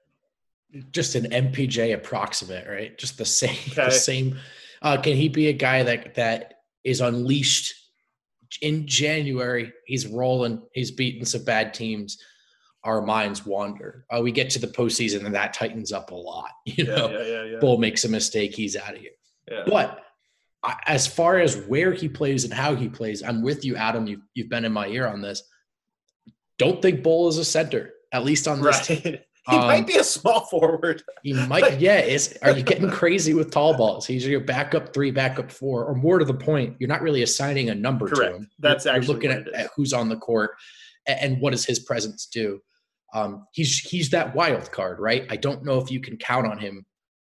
Just an M P J approximate, right? Just the same, Okay. the same. Uh, can he be a guy that that is unleashed in January? He's rolling. He's beating some bad teams. Our minds wander. Uh, we get to the postseason and that tightens up a lot. You Yeah, know, yeah, yeah, yeah. Bull makes a mistake, he's out of here. Yeah. But I, as far as where he plays and how he plays, I'm with you, Adam. You've you've been in my ear on this. Don't think Bull is a center, at least on this Right. team. He Um, might be a small forward. He might, yeah. Is are you getting crazy with tall balls? He's your backup three, backup four, or more to the point, you're not really assigning a number Correct. to him. That's you're, actually you're looking what at, it is. at who's on the court and, and what does his presence do. Um, he's he's that wild card, right? I don't know if you can count on him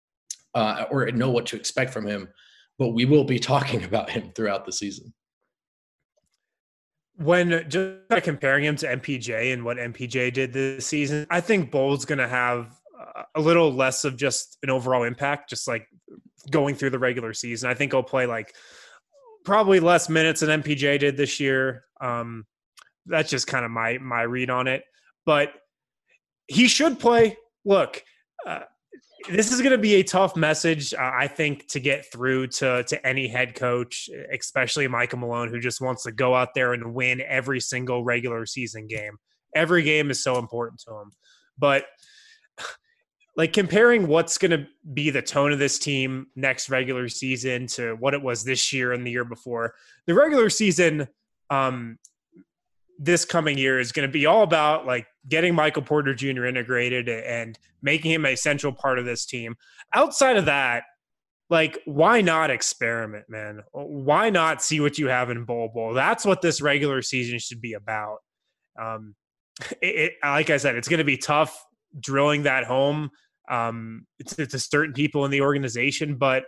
uh, or know what to expect from him, but we will be talking about him throughout the season. When just comparing him to M P J and what M P J did this season, I think Bol's going to have a little less of just an overall impact, just like going through the regular season. I think he'll play like probably less minutes than M P J did this year. Um, that's just kind of my my read on it. But he should play. Look, uh, this is going to be a tough message, uh, I think, to get through to to any head coach, especially Michael Malone, who just wants to go out there and win every single regular season game. Every game is so important to him. But like comparing what's going to be the tone of this team next regular season to what it was this year and the year before, the regular season um, this coming year is going to be all about like getting Michael Porter Junior integrated and making him a central part of this team. Outside of that, like, why not experiment, man? Why not see what you have in Bol Bol? That's what this regular season should be about. Um, it, it, like I said, it's going to be tough drilling that home um, to, to certain people in the organization, but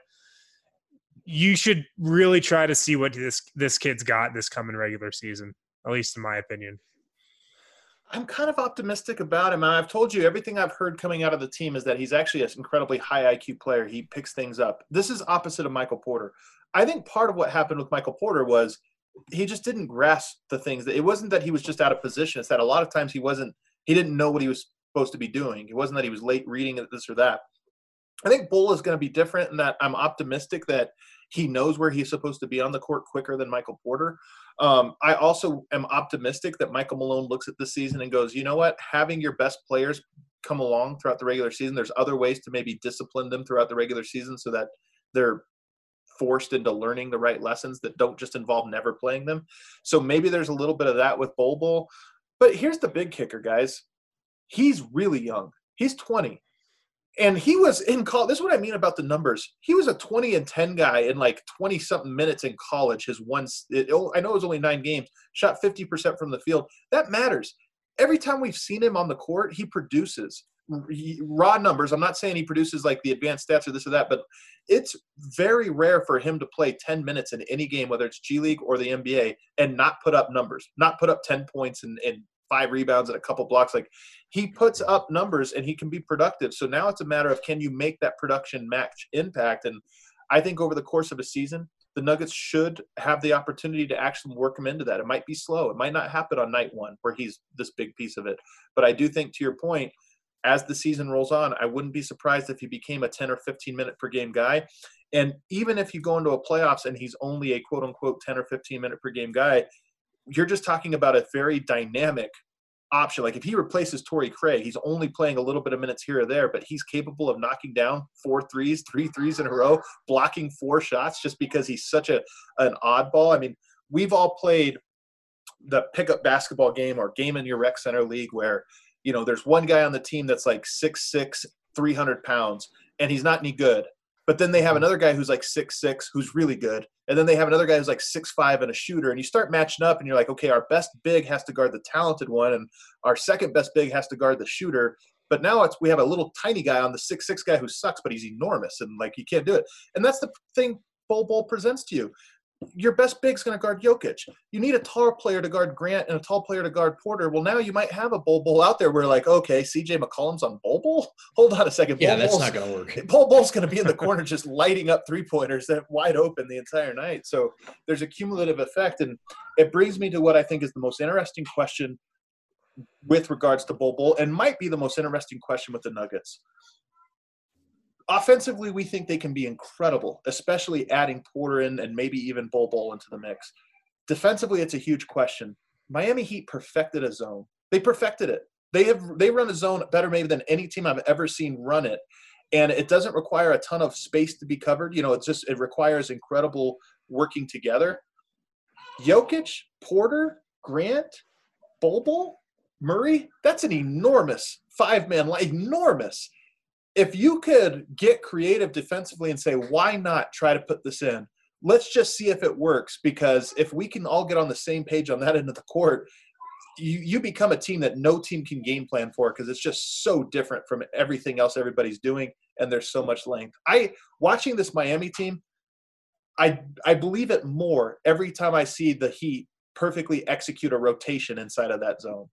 you should really try to see what this this kid's got this coming regular season, at least in my opinion. I'm kind of optimistic about him. I've told you everything I've heard coming out of the team is that he's actually an incredibly high I Q player. He picks things up. This is opposite of Michael Porter. I think part of what happened with Michael Porter was he just didn't grasp the things. It wasn't that he was just out of position. It's that a lot of times he wasn't, he didn't know what he was supposed to be doing. It wasn't that he was late reading this or that. I think Bull is going to be different in that I'm optimistic that he knows where he's supposed to be on the court quicker than Michael Porter. Um, I also am optimistic that Michael Malone looks at this season and goes, you know what, having your best players come along throughout the regular season, there's other ways to maybe discipline them throughout the regular season so that they're forced into learning the right lessons that don't just involve never playing them. So maybe there's a little bit of that with Bol Bol. But here's the big kicker, guys. He's really young. He's twenty. And he was in college. This is what I mean about the numbers. He was a twenty and ten guy in like twenty something minutes in college. His one, it, I know it was only nine games, shot fifty percent from the field. That matters. Every time we've seen him on the court, he produces. raw numbers. I'm not saying he produces like the advanced stats or this or that, but it's very rare for him to play ten minutes in any game, whether it's G League or the N B A, and not put up numbers, not put up ten points and, and five rebounds and a couple blocks. Like, he puts up numbers and he can be productive. So now it's a matter of, can you make that production match impact? And I think over the course of a season, the Nuggets should have the opportunity to actually work him into that. It might be slow. It might not happen on night one where he's this big piece of it. But I do think, to your point, as the season rolls on, I wouldn't be surprised if he became a ten or fifteen minute per game guy. And even if you go into a playoffs and he's only a quote unquote ten or fifteen minute per game guy, you're just talking about a very dynamic option. Like, if he replaces Torrey Craig, he's only playing a little bit of minutes here or there, but he's capable of knocking down four threes, three threes in a row, blocking four shots just because he's such a an oddball. I mean, we've all played the pickup basketball game or game in your rec center league where, you know, there's one guy on the team that's like six six, three hundred pounds, and he's not any good. But then they have another guy who's like six six, who's really good. And then they have another guy who's like six five and a shooter. And you start matching up and you're like, okay, our best big has to guard the talented one, and our second best big has to guard the shooter. But now it's we have a little tiny guy on the six six guy who sucks, but he's enormous, and like, you can't do it. And that's the thing Bol Bol presents to you. Your best big's going to guard Jokic. You need a tall player to guard Grant and a tall player to guard Porter. Well, now you might have a Bol Bol out there where, like, okay, C J McCollum's on Bol Bol? Hold on a second. Yeah, Bol that's Bol's, not going to work. Bol Bol's going to be in the corner just lighting up three-pointers that wide open the entire night. So there's a cumulative effect, and it brings me to what I think is the most interesting question with regards to Bol Bol, and might be the most interesting question with the Nuggets. Offensively, we think they can be incredible, especially adding Porter in and maybe even Bol Bol into the mix. Defensively, it's a huge question. Miami Heat perfected a zone. They perfected it. They have they run a zone better maybe than any team I've ever seen run it. And it doesn't require a ton of space to be covered. You know, it's just it requires incredible working together. Jokic, Porter, Grant, Bol Bol, Murray, that's an enormous five-man line, enormous. If you could get creative defensively and say, why not try to put this in? Let's just see if it works, because if we can all get on the same page on that end of the court, you, you become a team that no team can game plan for, because it's just so different from everything else everybody's doing, and there's so much length. I watching this Miami team, I I believe it more every time I see the Heat perfectly execute a rotation inside of that zone.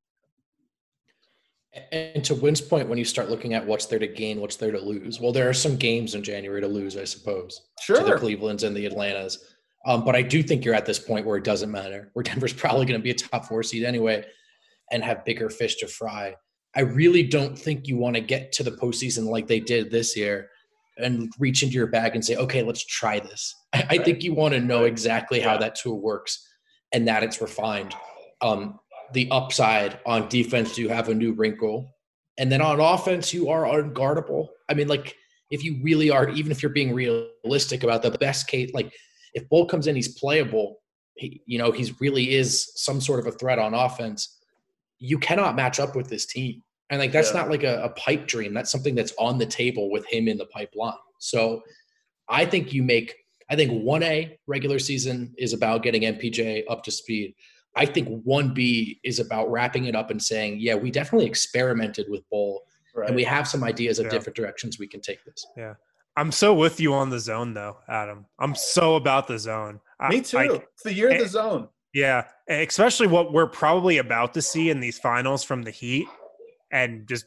And to Wynn's point, when you start looking at what's there to gain, what's there to lose, well, there are some games in January to lose, I suppose, sure, to the Clevelands and the Atlantas. Um, but I do think you're at this point where it doesn't matter, where Denver's probably going to be a top four seed anyway and have bigger fish to fry. I really don't think you want to get to the postseason like they did this year and reach into your bag and say, okay, let's try this. I, I think you want to know exactly how that tool works and that it's refined. Um, the upside on defense, you have a new wrinkle. And then on offense, you are unguardable. I mean, like, if you really are, even if you're being realistic about the best case, like if Bol comes in, he's playable, he, you know, he's really is some sort of a threat on offense. You cannot match up with this team. And like, that's yeah. not like a, a pipe dream. That's something that's on the table with him in the pipeline. So I think you make, I think one A regular season is about getting M P J up to speed. I think one B is about wrapping it up and saying, yeah, we definitely experimented with Bol, right, and we have some ideas of yeah. different directions we can take this. Yeah. I'm so with you on the zone, though, Adam. I'm so about the zone. Me too. I, it's the year of the zone. Yeah. Especially what we're probably about to see in these finals from the Heat and just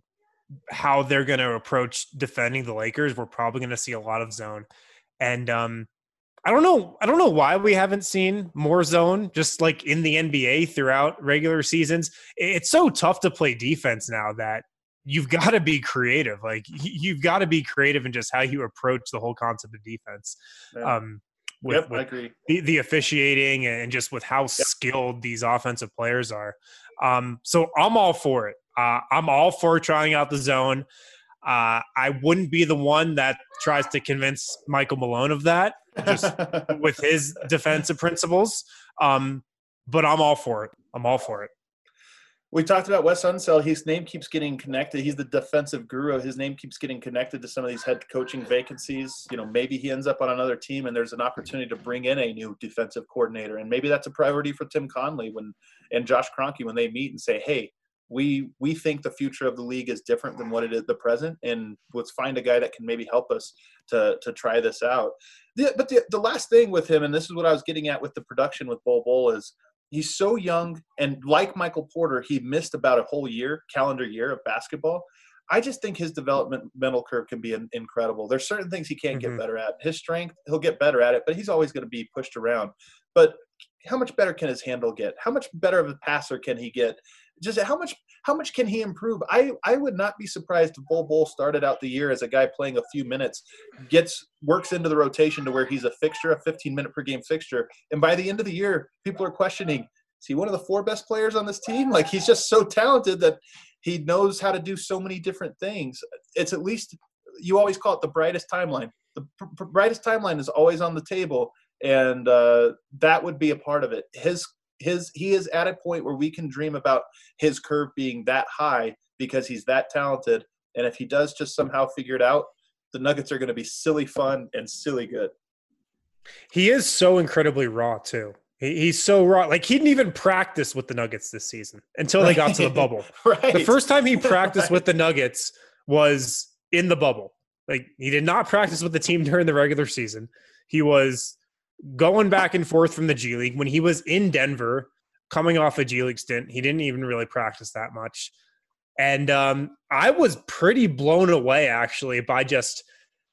how they're going to approach defending the Lakers. We're probably going to see a lot of zone. And, um, I don't know. I don't know why we haven't seen more zone just like in the N B A throughout regular seasons. It's so tough to play defense now that you've got to be creative. Like you've got to be creative in just how you approach the whole concept of defense. Yeah. Um, with, yep, with I agree. The, the officiating and just with how yep. skilled these offensive players are. Um, so I'm all for it. Uh, I'm all for trying out the zone. Uh, I wouldn't be the one that tries to convince Michael Malone of that, just with his defensive principles. Um, but I'm all for it. I'm all for it. We talked about Wes Unseld. His name keeps getting connected. He's the defensive guru. His name keeps getting connected to some of these head coaching vacancies. You know, maybe he ends up on another team and there's an opportunity to bring in a new defensive coordinator. And maybe that's a priority for Tim Connelly when and Josh Kroenke when they meet and say, hey, we we think the future of the league is different than what it is the present, and let's find a guy that can maybe help us to to try this out. The, but the, the last thing with him, and this is what I was getting at with the production with Bol Bol, is he's so young, and like Michael Porter, he missed about a whole year, calendar year of basketball. I just think his developmental curve can be in, incredible. There's certain things he can't mm-hmm. get better at. His strength, he'll get better at it, but he's always going to be pushed around. But how much better can his handle get? How much better of a passer can he get? Just how much how much can he improve? I, I would not be surprised if Bol Bol started out the year as a guy playing a few minutes, gets works into the rotation to where he's a fixture, a fifteen minute per game fixture. And by the end of the year, people are questioning, is he one of the four best players on this team? Like, he's just so talented that he knows how to do so many different things. It's at least, you always call it the brightest timeline. The pr- brightest timeline is always on the table, and uh, that would be a part of it. His his he is at a point where we can dream about his curve being that high because he's that talented. And if he does just somehow figure it out, the Nuggets are going to be silly fun and silly good. He is so incredibly raw too. He's so raw. Like, he didn't even practice with the Nuggets this season until they got to the bubble. Right. The first time he practiced right. with the Nuggets was in the bubble. Like, he did not practice with the team during the regular season. He was going back and forth from the G League. When he was in Denver, coming off a G League stint, he didn't even really practice that much. And um, I was pretty blown away, actually, by just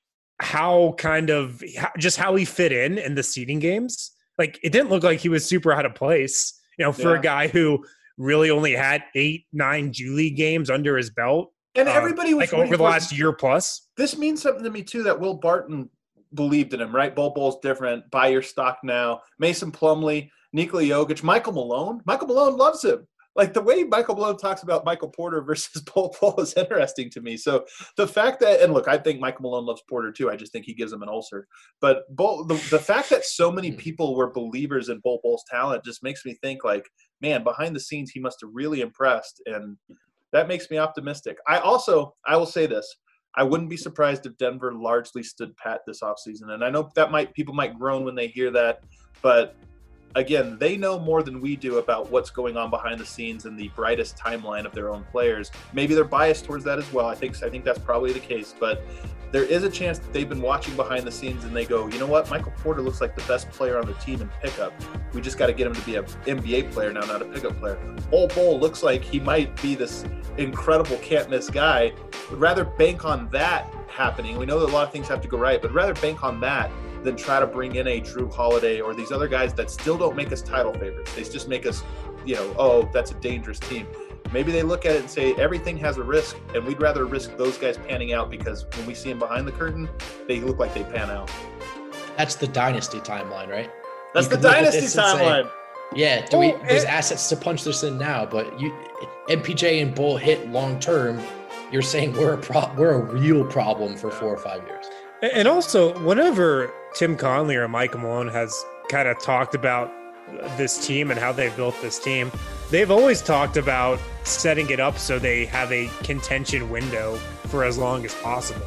how kind of – just how he fit in in the seeding games. Like, it didn't look like he was super out of place, you know, for yeah. a guy who really only had eight, nine G League games under his belt. And everybody was uh, like over the last year plus. This means something to me too, that Will Barton believed in him, right? Bol Bol's different. Buy your stock now. Mason Plumlee, Nikola Jokic, Michael Malone. Michael Malone loves him. Like, the way Michael Malone talks about Michael Porter versus Bol Bol is interesting to me. So the fact that, and look, I think Michael Malone loves Porter too. I just think he gives him an ulcer. But Bol, the, the fact that so many people were believers in Bol Bol's talent just makes me think, like, man, behind the scenes, he must have really impressed. And that makes me optimistic. I also, I will say this. I wouldn't be surprised if Denver largely stood pat this offseason. And I know that might, people might groan when they hear that, but again, they know more than we do about what's going on behind the scenes and the brightest timeline of their own players. Maybe they're biased towards that as well. I think I think that's probably the case. But there is a chance that they've been watching behind the scenes and they go, you know what? Michael Porter looks like the best player on the team in pickup. We just got to get him to be an N B A player now, not a pickup player. Bol Bol looks like he might be this incredible can't-miss guy. Would rather bank on that happening. We know that a lot of things have to go right, but rather bank on that than try to bring in a Drew Holiday or these other guys that still don't make us title favorites. They just make us, you know, oh, that's a dangerous team. Maybe they look at it and say everything has a risk, and we'd rather risk those guys panning out because when we see them behind the curtain, they look like they pan out. That's the dynasty timeline, right? That's the dynasty timeline. Say, yeah, do we, there's assets to punch this in now, but you, M P J and Bull hit long term. You're saying we're a pro, we're a real problem for four or five years. And also, whenever Tim Conley or Michael Malone has kind of talked about this team and how they've built this team, they've always talked about setting it up so they have a contention window for as long as possible.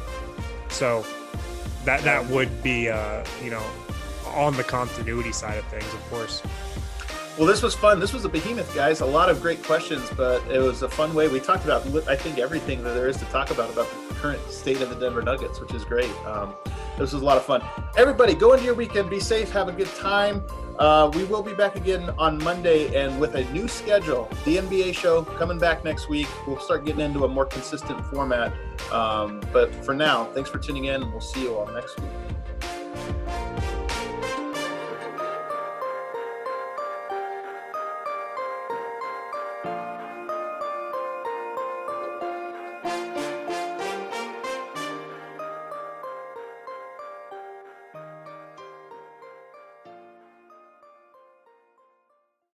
So that that would be, uh, you know, on the continuity side of things, of course. Well, this was fun. This was a behemoth, guys. A lot of great questions, but it was a fun way. We talked about, I think, everything that there is to talk about about the current state of the Denver Nuggets, which is great. Um, this was a lot of fun. Everybody, go into your weekend. Be safe. Have a good time. Uh, we will be back again on Monday and with a new schedule. The N B A show coming back next week. We'll start getting into a more consistent format. Um, but for now, thanks for tuning in, and we'll see you all next week.